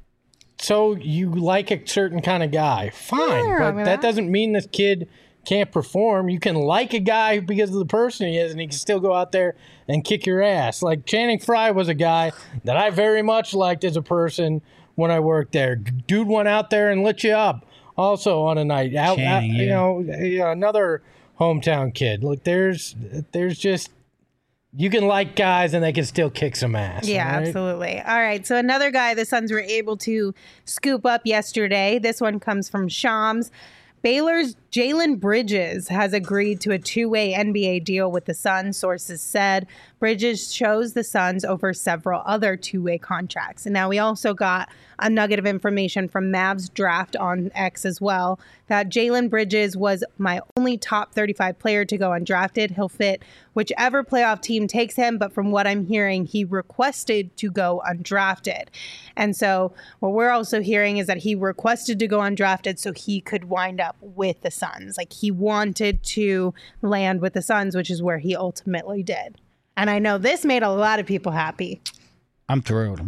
So you like a certain kind of guy. Fine, but that doesn't mean this kid can't perform. You can like a guy because of the person he is, and he can still go out there and kick your ass. Like Channing Frye was a guy that I very much liked as a person when I worked there. Dude went out there and lit you up also on a night. Channing, you know, another hometown kid. Look, there's just... You can like guys and they can still kick some ass. Yeah, right? Absolutely. All right. So another guy the Suns were able to scoop up yesterday. This one comes from Shams. Baylor's Jalen Bridges has agreed to a two-way NBA deal with the Suns, sources said. Bridges chose the Suns over several other two-way contracts. And now we also got a nugget of information from Mavs Draft on X as well, that Jalen Bridges was my only top 35 player to go undrafted. He'll fit whichever playoff team takes him, but from what I'm hearing, he requested to go undrafted. And so what we're also hearing is that he requested to go undrafted so he could wind up with the Suns. Like, he wanted to land with the Suns, which is where he ultimately did. And I know this made a lot of people happy. I'm thrilled.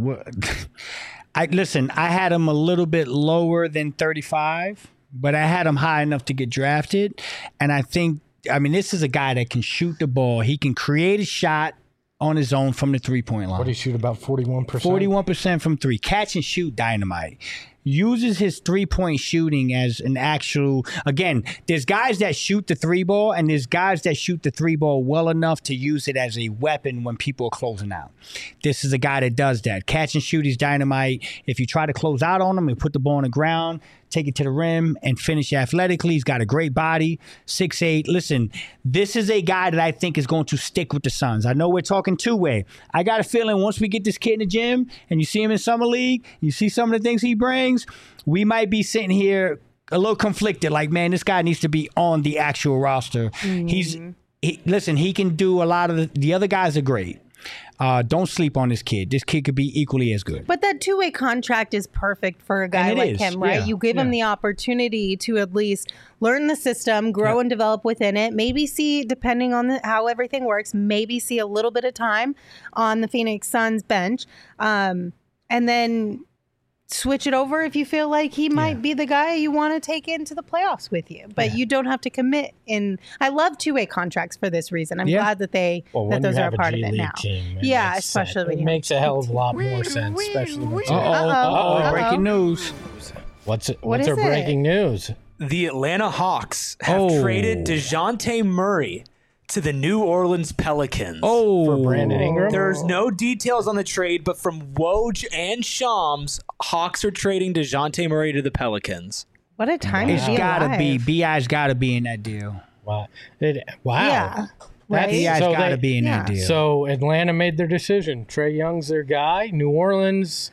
I had him a little bit lower than 35, but I had him high enough to get drafted. And this is a guy that can shoot the ball. He can create a shot on his own from the three-point line. What do you shoot, about 41%? 41% from three. Catch and shoot dynamite. Uses his three-point shooting as an actual... Again, there's guys that shoot the three ball, and there's guys that shoot the three ball well enough to use it as a weapon when people are closing out. This is a guy that does that. Catch and shoot is dynamite. If you try to close out on him and put the ball on the ground, take it to the rim, and finish athletically, he's got a great body, 6'8". Listen, this is a guy that I think is going to stick with the Suns. I know we're talking two-way. I got a feeling once we get this kid in the gym, and you see him in Summer League, you see some of the things he brings, we might be sitting here a little conflicted, like, man, this guy needs to be on the actual roster. Mm-hmm. He can do a lot of the other guys are great. Don't sleep on this kid. This kid could be equally as good. But that two-way contract is perfect for a guy like him, right? Yeah. You give him the opportunity to at least learn the system, grow and develop within it, maybe see, depending on how everything works, maybe see a little bit of time on the Phoenix Suns bench, and then switch it over if you feel like he might be the guy you want to take into the playoffs with you. But you don't have to commit in. I love two-way contracts for this reason. I'm glad that those are a part of it now. Especially when it makes a hell of a lot more sense, especially when breaking news. What's our breaking news? The Atlanta Hawks have traded DeJounte Murray to the New Orleans Pelicans. For Brandon Ingram? There's no details on the trade, but from Woj and Shams, Hawks are trading DeJounte Murray to the Pelicans. What a time to be alive. It's gotta be. B.I.'s gotta be in that deal. Wow. Yeah. Right? B.I.'s gotta be in that deal. So Atlanta made their decision. Trae Young's their guy. New Orleans.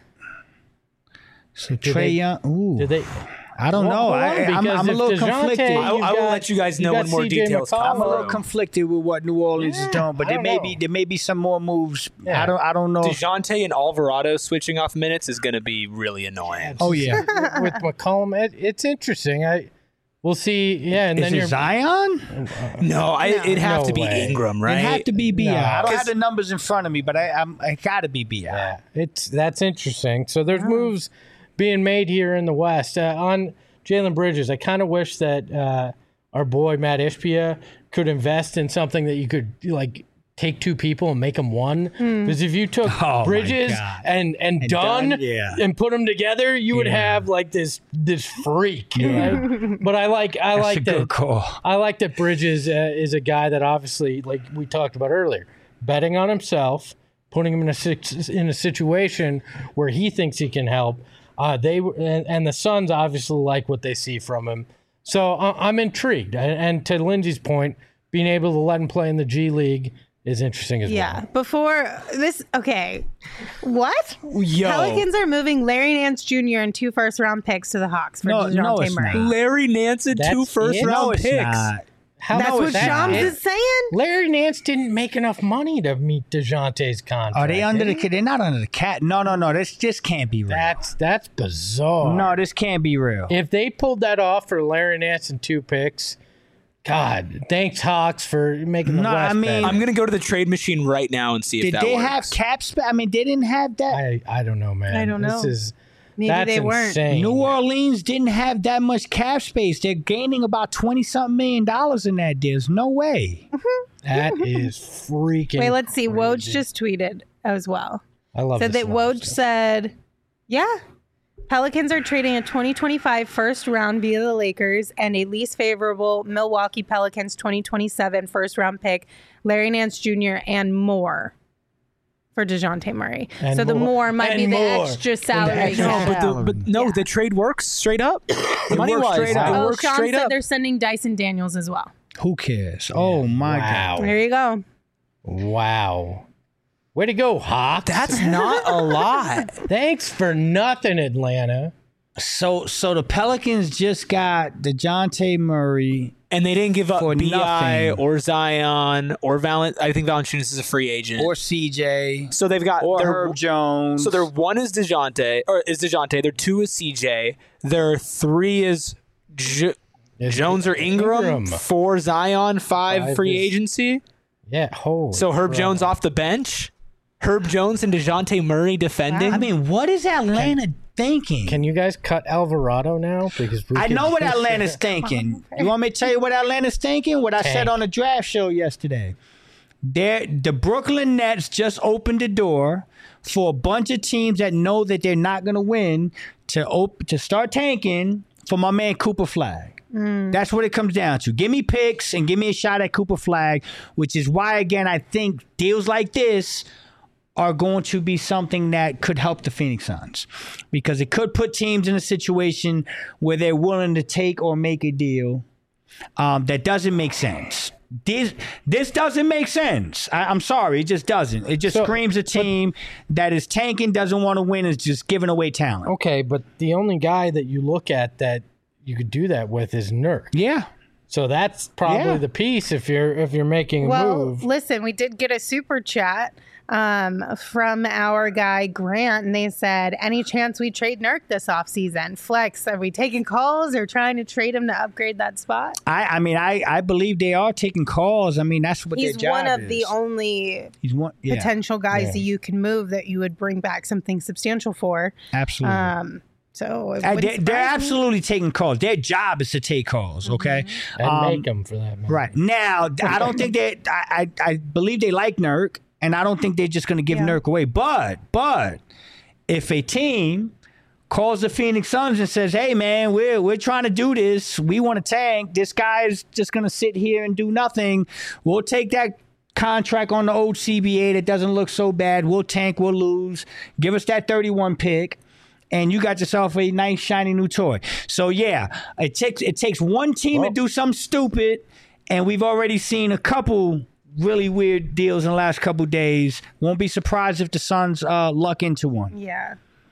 So Trae Young. Ooh. Did they... I don't know. I'm a little conflicted. I will let you guys know when more details come. I'm a little conflicted with what New Orleans is doing, but there may be some more moves. Yeah. I don't know. DeJounte and Alvarado switching off minutes is going to be really annoying. With McCollum, it's interesting. We'll see. Yeah, and is it Zion? No, it'd have to be Ingram, right? It'd have to be B.I. No, I don't have the numbers in front of me, but I gotta be B.I. Yeah, that's interesting. So there's moves being made here in the West. On Jalen Bridges, I kind of wish that our boy Matt Ishbia could invest in something that you could take two people and make them one. Because if you took Bridges and Dunn and put them together, you would have this freak. Right? But I like that. Good call. I like that Bridges is a guy that obviously, like we talked about earlier, betting on himself, putting him in a situation where he thinks he can help. The Suns obviously like what they see from him. So I'm intrigued. And to Lindsay's point, being able to let him play in the G League is interesting as well. Yeah. Before this, okay. What? Yo. Pelicans are moving Larry Nance Jr. and 2 first-round picks to the Hawks for DeJounte Murray. Larry Nance and 2 first-round picks. Not. That's what Shams is saying. Larry Nance didn't make enough money to meet DeJounte's contract. Are they under They're not under the cap. No. This just can't be real. That's bizarre. No, this can't be real. If they pulled that off for Larry Nance and 2 picks, God, thanks Hawks for making the West better. I'm going to go to the trade machine right now and see if that works. Did they have cap space? I mean, they didn't have that. I don't know, man. I don't know. Maybe they weren't. Insane. New Orleans didn't have that much cap space. They're gaining about $20-something million in that deal. There's no way. That is freaking Wait, let's see. crazy. Woj just tweeted as well. I love so that Woj said, Pelicans are trading a 2025 first round via the Lakers and a least favorable Milwaukee Pelicans 2027 first round pick, Larry Nance Jr., and more for DeJounte Murray. And so the more might and be the more. extra And the salary. extra cap. salary. The trade works straight up. Money-wise. Straight up. It Oh, works Sean straight said up. they're sending Dyson Daniels as well. Who cares? Oh my Wow. There you go. Wow. Way to go, Hawks. That's not a lot. Thanks for nothing, Atlanta. So the Pelicans just got DeJounte Murray. And they didn't give up For B.I. nothing. or Zion or Valent. I think Valanciunas is a free agent. Or CJ. So they've got Or their- Herb Jones. So their one is DeJounte, their two is CJ, their three is Jones or Ingram, four Zion, five free agency. Yeah, holy. So Herb Jones off the bench, Herb Jones and DeJounte Murray defending. I mean, what is Atlanta thinking? Can you guys cut Alvarado now? Because I know what Atlanta's thinking. You want me to tell you what Atlanta's thinking? What I said Tank. on the draft show yesterday. The Brooklyn Nets just opened the door for a bunch of teams that know that they're not going to win to start tanking for my man Cooper Flag. That's what it comes down to. Give me picks and give me a shot at Cooper Flag, which is why, again, I think deals like this are going to be something that could help the Phoenix Suns, because it could put teams in a situation where they're willing to take or make a deal that doesn't make sense. This doesn't make sense. I'm sorry, it just doesn't. It just screams a team that is tanking, doesn't want to win, is just giving away talent. Okay, but the only guy that you look at that you could do that with is Nurk. Yeah. So that's probably the piece if you're making a move. Listen, we did get a super chat from our guy Grant, and they said, any chance we trade Nurk this offseason? Flex, are we taking calls or trying to trade him to upgrade that spot? I believe they are taking calls. I mean, that's what He's their job one of is. the only potential guys that you can move that you would bring back something substantial for. Absolutely. So it they're wouldn't surprise me. absolutely taking calls. Their job is to take calls, okay? And make them for that, man. Right. Now, I don't think that I believe they like Nurk, and I don't think they're just going to give Nurk away. But if a team calls the Phoenix Suns and says, "Hey, man, we're trying to do this. We want to tank. This guy's just going to sit here and do nothing. We'll take that contract on the old CBA that doesn't look so bad. We'll tank. We'll lose. Give us that 31 pick." And you got yourself a nice, shiny new toy. So, yeah, it takes one team to do something stupid, and we've already seen a couple really weird deals in the last couple days. Won't be surprised if the Suns luck into one. Yeah.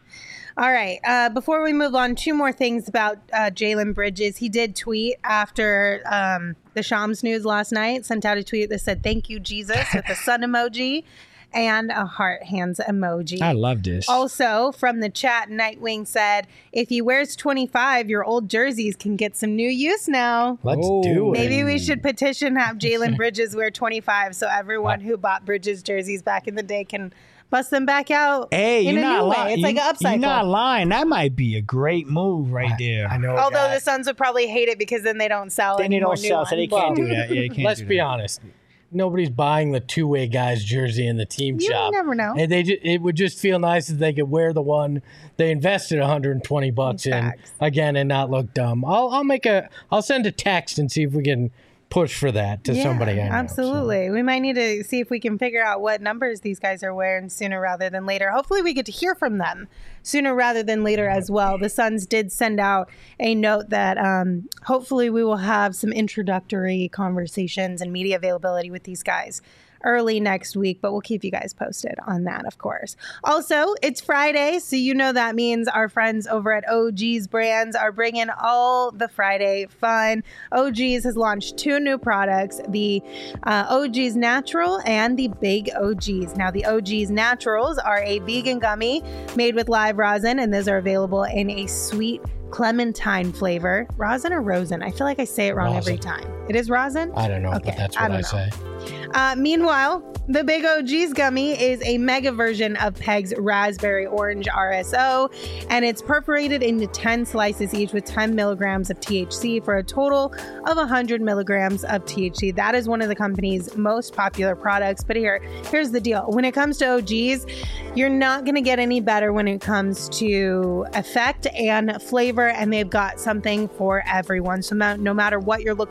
All right. Before we move on, two more things about Jalen Bridges. He did tweet after the Shams news last night, sent out a tweet that said, "Thank you, Jesus," with a sun emoji and a heart hands emoji. I love this. Also, from the chat, Nightwing said, if he wears 25, your old jerseys can get some new use now. Let's do it. Maybe we should petition have Jalen Bridges wear 25 so everyone who bought Bridges jerseys back in the day can bust them back out in a new way. It's like an upcycle. You're not lying. That might be a great move right there. I know. Although the Suns would probably hate it because then they don't sell Then they any more don't new sell, ones. so they can't do that. Yeah, they can't Let's do be that. honest. Nobody's buying the two-way guy's jersey in the team You shop. never know. And it would just feel nice if they could wear the one they invested $120 in again and not look dumb. I'll send a text and see if we can push for that to somebody I know. Absolutely. We might need to see if we can figure out what numbers these guys are wearing sooner rather than later. Hopefully we get to hear from them sooner rather than later as well. The Suns did send out a note that hopefully we will have some introductory conversations and media availability with these guys early next week, but we'll keep you guys posted on that, of course. Also, it's Friday, so you know that means our friends over at OG's Brands are bringing all the Friday fun. OG's has launched two new products, the OG's Natural and the Big OG's. Now, the OG's Naturals are a vegan gummy made with live rosin, and those are available in a sweet clementine flavor. Rosin or rosin? I feel like I say it wrong every time. It is rosin? I don't know, Okay, but that's what I say. Meanwhile, the Big OG's gummy is a mega version of Peg's Raspberry Orange RSO, and it's perforated into 10 slices each with 10 milligrams of THC for a total of 100 milligrams of THC. That is one of the company's most popular products. But here's the deal. When it comes to OG's, you're not going to get any better when it comes to effect and flavor, and they've got something for everyone. So no matter what you're looking for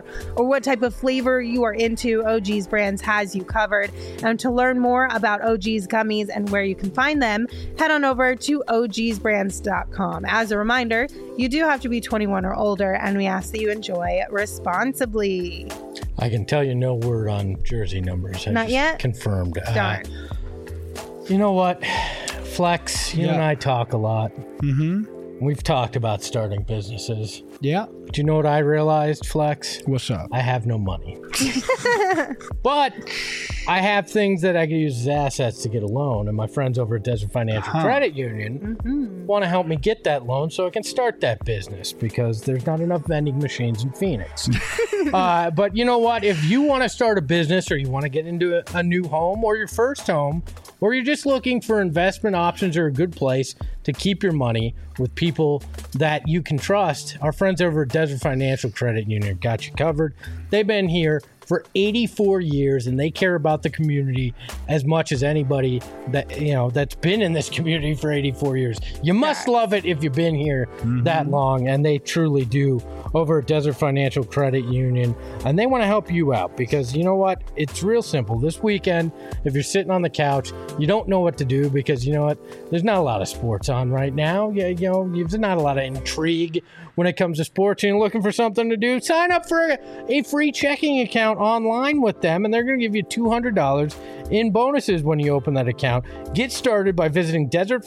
are or what type of flavor you are into, OG's Brands has you covered. And to learn more about OG's gummies and where you can find them, head on over to ogsbrands.com. As a reminder, you do have to be 21 or older, and we ask that you enjoy responsibly. I can tell you no word on jersey numbers. Not yet? Confirmed. Darn. You know what, Flex, you and I talk a lot. Mm-hmm. We've talked about starting businesses. Yeah. Do you know what I realized, Flex? What's up? I have no money. But I have things that I can use as assets to get a loan, and my friends over at Desert Financial Credit Union want to help me get that loan so I can start that business because there's not enough vending machines in Phoenix. But you know what? If you want to start a business or you want to get into a new home or your first home, or you're just looking for investment options or a good place to keep your money with people that you can trust, our friends over at Desert Financial Credit Union got you covered. They've been here for 84 years and they care about the community as much as anybody that that's been in this community for 84 years. You must love it if you've been here that long, and they truly do over at Desert Financial Credit Union. And they want to help you out because you know what? It's real simple. This weekend, if you're sitting on the couch, you don't know what to do because you know what? There's not a lot of sports on right now. There's not a lot of intrigue when it comes to sports, and you're looking for something to do. Sign up for a free checking account online with them, and they're going to give you $200 in bonuses when you open that account. Get started by visiting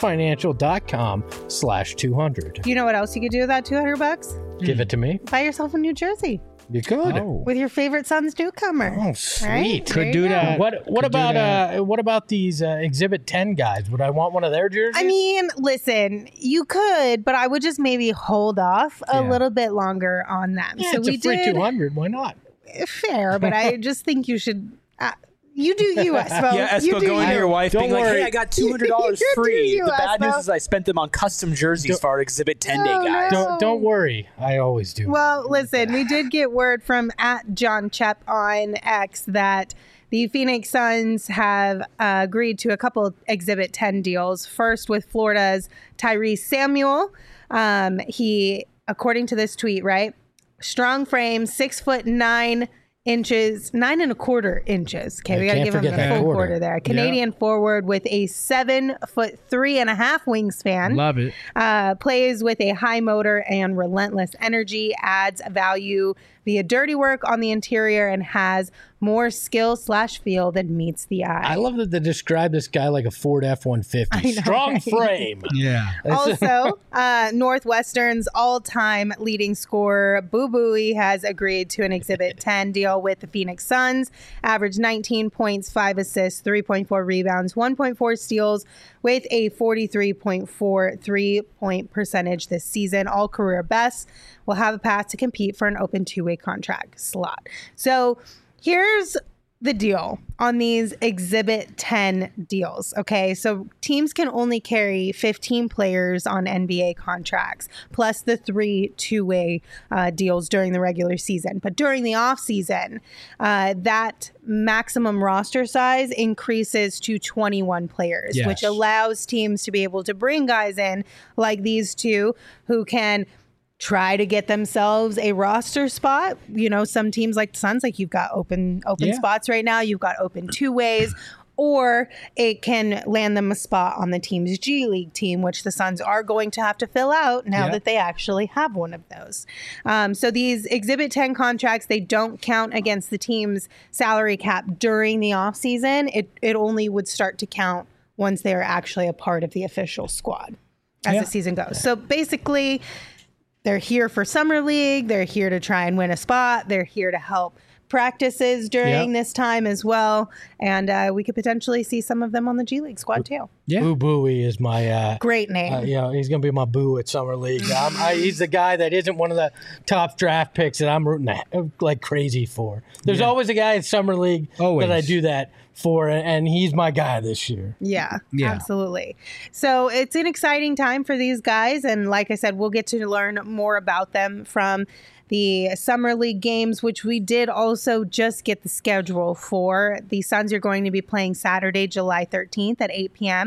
desertfinancial.com/200. You know what else you could do with that $200? Give it to me. Buy yourself a new jersey. You could. With your favorite Suns newcomer. Oh, sweet. Right? Could do that. What about these Exhibit 10 guys? Would I want one of their jerseys? I mean, listen, you could, but I would just maybe hold off a little bit longer on them. Yeah, so it's we a free did $200. Why not? Fair, but I just think you should. You do you, Espo. Yeah, Espo, going to your wife being like, hey, I got $200 free. The bad news is I spent them on custom jerseys for our Exhibit 10 day guys. Don't worry. I always do. Well, listen, we did get word from @JohnChep on X that the Phoenix Suns have agreed to a couple Exhibit 10 deals. First with Florida's Tyrese Samuel. He, according to this tweet, right? Strong frame, 6'9" inches, 9.25 inches. Okay, we got to give him the full quarter there. Canadian forward with a 7'3.5" wingspan. Love it. Plays with a high motor and relentless energy. Adds value via dirty work on the interior and has more skill/feel than meets the eye. I love that they describe this guy like a Ford F-150. Strong frame. Yeah. Also, Northwestern's all-time leading scorer, Boo Buie, has agreed to an Exhibit 10 deal with the Phoenix Suns. Averaged 19 points, 5 assists, 3.4 rebounds, 1.4 steals, with a 43.4 3-point percentage this season. All career best. Will have a path to compete for an open two-way contract slot. So here's the deal on these Exhibit 10 deals. Okay, so teams can only carry 15 players on NBA contracts, plus the 3 two-way deals during the regular season. But during the offseason, that maximum roster size increases to 21 players, which allows teams to be able to bring guys in like these two who can try to get themselves a roster spot. You know, some teams like the Suns, like you've got open spots right now. You've got open two ways, or it can land them a spot on the team's G League team, which the Suns are going to have to fill out now that they actually have one of those. So these Exhibit 10 contracts, they don't count against the team's salary cap during the offseason. It only would start to count once they are actually a part of the official squad as the season goes. So basically, they're here for Summer League. They're here to try and win a spot. They're here to help practices during this time as well. And we could potentially see some of them on the G League squad too. Yeah. Boo Buie is my great name. He's going to be my boo at Summer League. He's the guy that isn't one of the top draft picks that I'm rooting like crazy for. There's always a guy at Summer League that I do that for, and he's my guy this year. Yeah, absolutely. So it's an exciting time for these guys. And like I said, we'll get to learn more about them from the Summer League games, which we did also just get the schedule for. The Suns are going to be playing Saturday, July 13th at 8 p.m.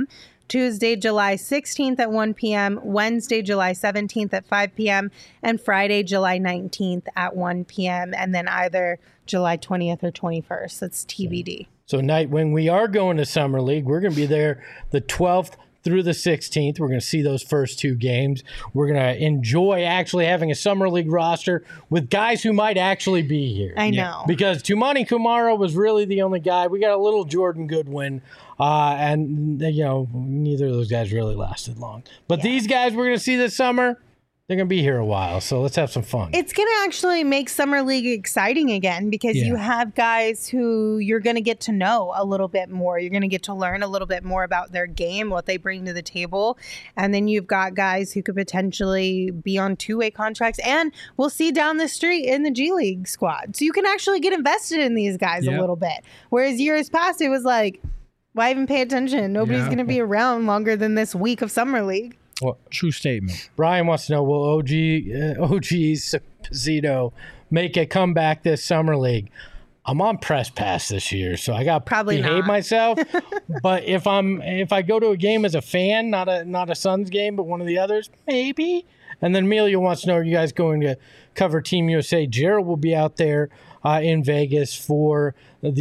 Tuesday, July 16th at 1 p.m., Wednesday, July 17th at 5 p.m., and Friday, July 19th at 1 p.m., and then either July 20th or 21st. That's TBD. So, Nightwing, we are going to Summer League. We're going to be there the 12th through the 16th. We're going to see those first 2 games. We're going to enjoy actually having a Summer League roster with guys who might actually be here. I know. Because Tumani Kumara was really the only guy. We got a little Jordan Goodwin, and, neither of those guys really lasted long. But these guys we're going to see this summer, they're going to be here a while, so let's have some fun. It's going to actually make Summer League exciting again because you have guys who you're going to get to know a little bit more. You're going to get to learn a little bit more about their game, what they bring to the table. And then you've got guys who could potentially be on 2-way contracts and we'll see down the street in the G League squad. So you can actually get invested in these guys a little bit. Whereas years past, it was like, why even pay attention? Nobody's going to be around longer than this week of Summer League. Well, true statement. Brian wants to know, will OG Esposito make a comeback this Summer League? I'm on press pass this year, so I got to behave myself. But if I go to a game as a fan, not a Suns game, but one of the others, maybe. And then Amelia wants to know, are you guys going to cover Team USA? Gerald will be out there in Vegas for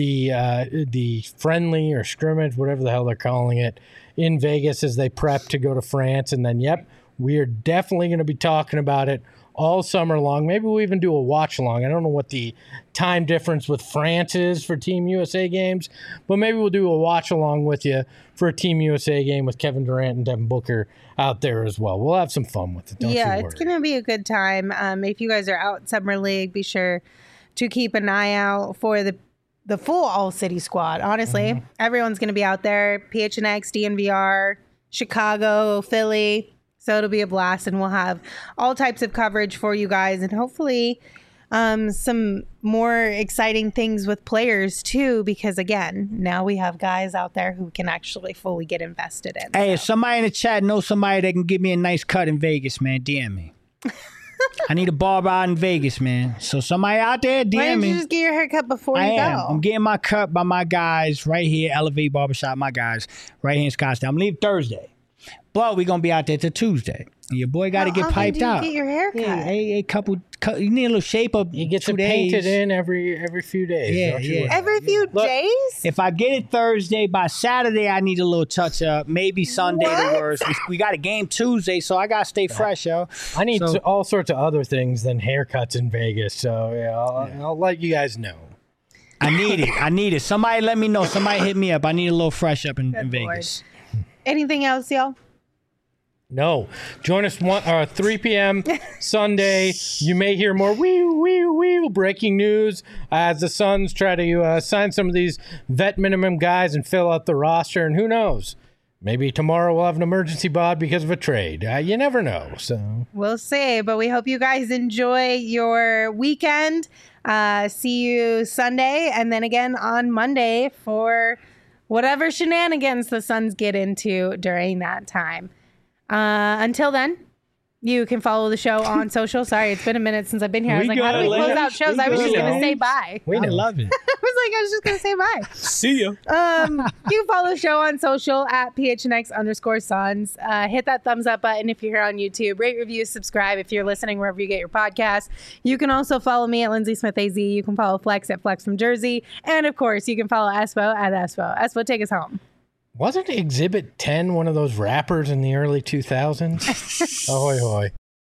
the friendly or scrimmage, whatever the hell they're calling it, in Vegas as they prep to go to France. And then, we are definitely going to be talking about it all summer long. Maybe we'll even do a watch along. I don't know what the time difference with France is for Team USA games, but maybe we'll do a watch along with you for a Team USA game with Kevin Durant and Devin Booker out there as well. We'll have some fun with it. Don't you worry. It's going to be a good time. If you guys are out Summer League, be sure to keep an eye out for the full All-City squad. Honestly, everyone's going to be out there. PHNX, DNVR, Chicago, Philly. So it'll be a blast, and we'll have all types of coverage for you guys, and hopefully some more exciting things with players too, because again, now we have guys out there who can actually fully get invested in. Hey, if somebody in the chat knows somebody that can give me a nice cut in Vegas, man, DM me. I need a barber out in Vegas, man. So somebody out there, DM me. Why don't you just get your haircut before you go? I'm getting my cut by my guys right here, Elevate Barbershop, my guys, right here in Scottsdale. I'm leaving Thursday. But we're going to be out there till Tuesday. And your boy got to get piped out. Get your haircut. A couple, you need a little shape up. You get to paint it in every few days. Yeah. Every few days? If I get it Thursday, by Saturday, I need a little touch up. Maybe Sunday the worst. We got a game Tuesday, so I got to stay fresh, yo. I need all sorts of other things than haircuts in Vegas. So, I'll let you guys know. I need it. Somebody let me know. Somebody hit me up. I need a little fresh up in Vegas. Anything else, y'all? No. Join us 3 p.m. Sunday. You may hear more wee breaking news as the Suns try to sign some of these vet minimum guys and fill out the roster. And who knows? Maybe tomorrow we'll have an emergency bod because of a trade. You never know. So we'll see. But we hope you guys enjoy your weekend. See you Sunday and then again on Monday for whatever shenanigans the Suns get into during that time. Until then, you can follow the show on social. Sorry, it's been a minute since I've been here. I was like, how do we close out shows? I was just going to say bye. I love it. I was just going to say bye. See ya. You can follow the show on social at PHNX_Suns. Hit that thumbs up button if you're here on YouTube. Rate, review, subscribe if you're listening wherever you get your podcasts. You can also follow me at Lindsay Smith AZ. You can follow Flex at Flex from Jersey. And of course, you can follow Espo at Espo. Espo, take us home. Wasn't Exhibit 10 one of those rappers in the early 2000s? Ahoy, hoy.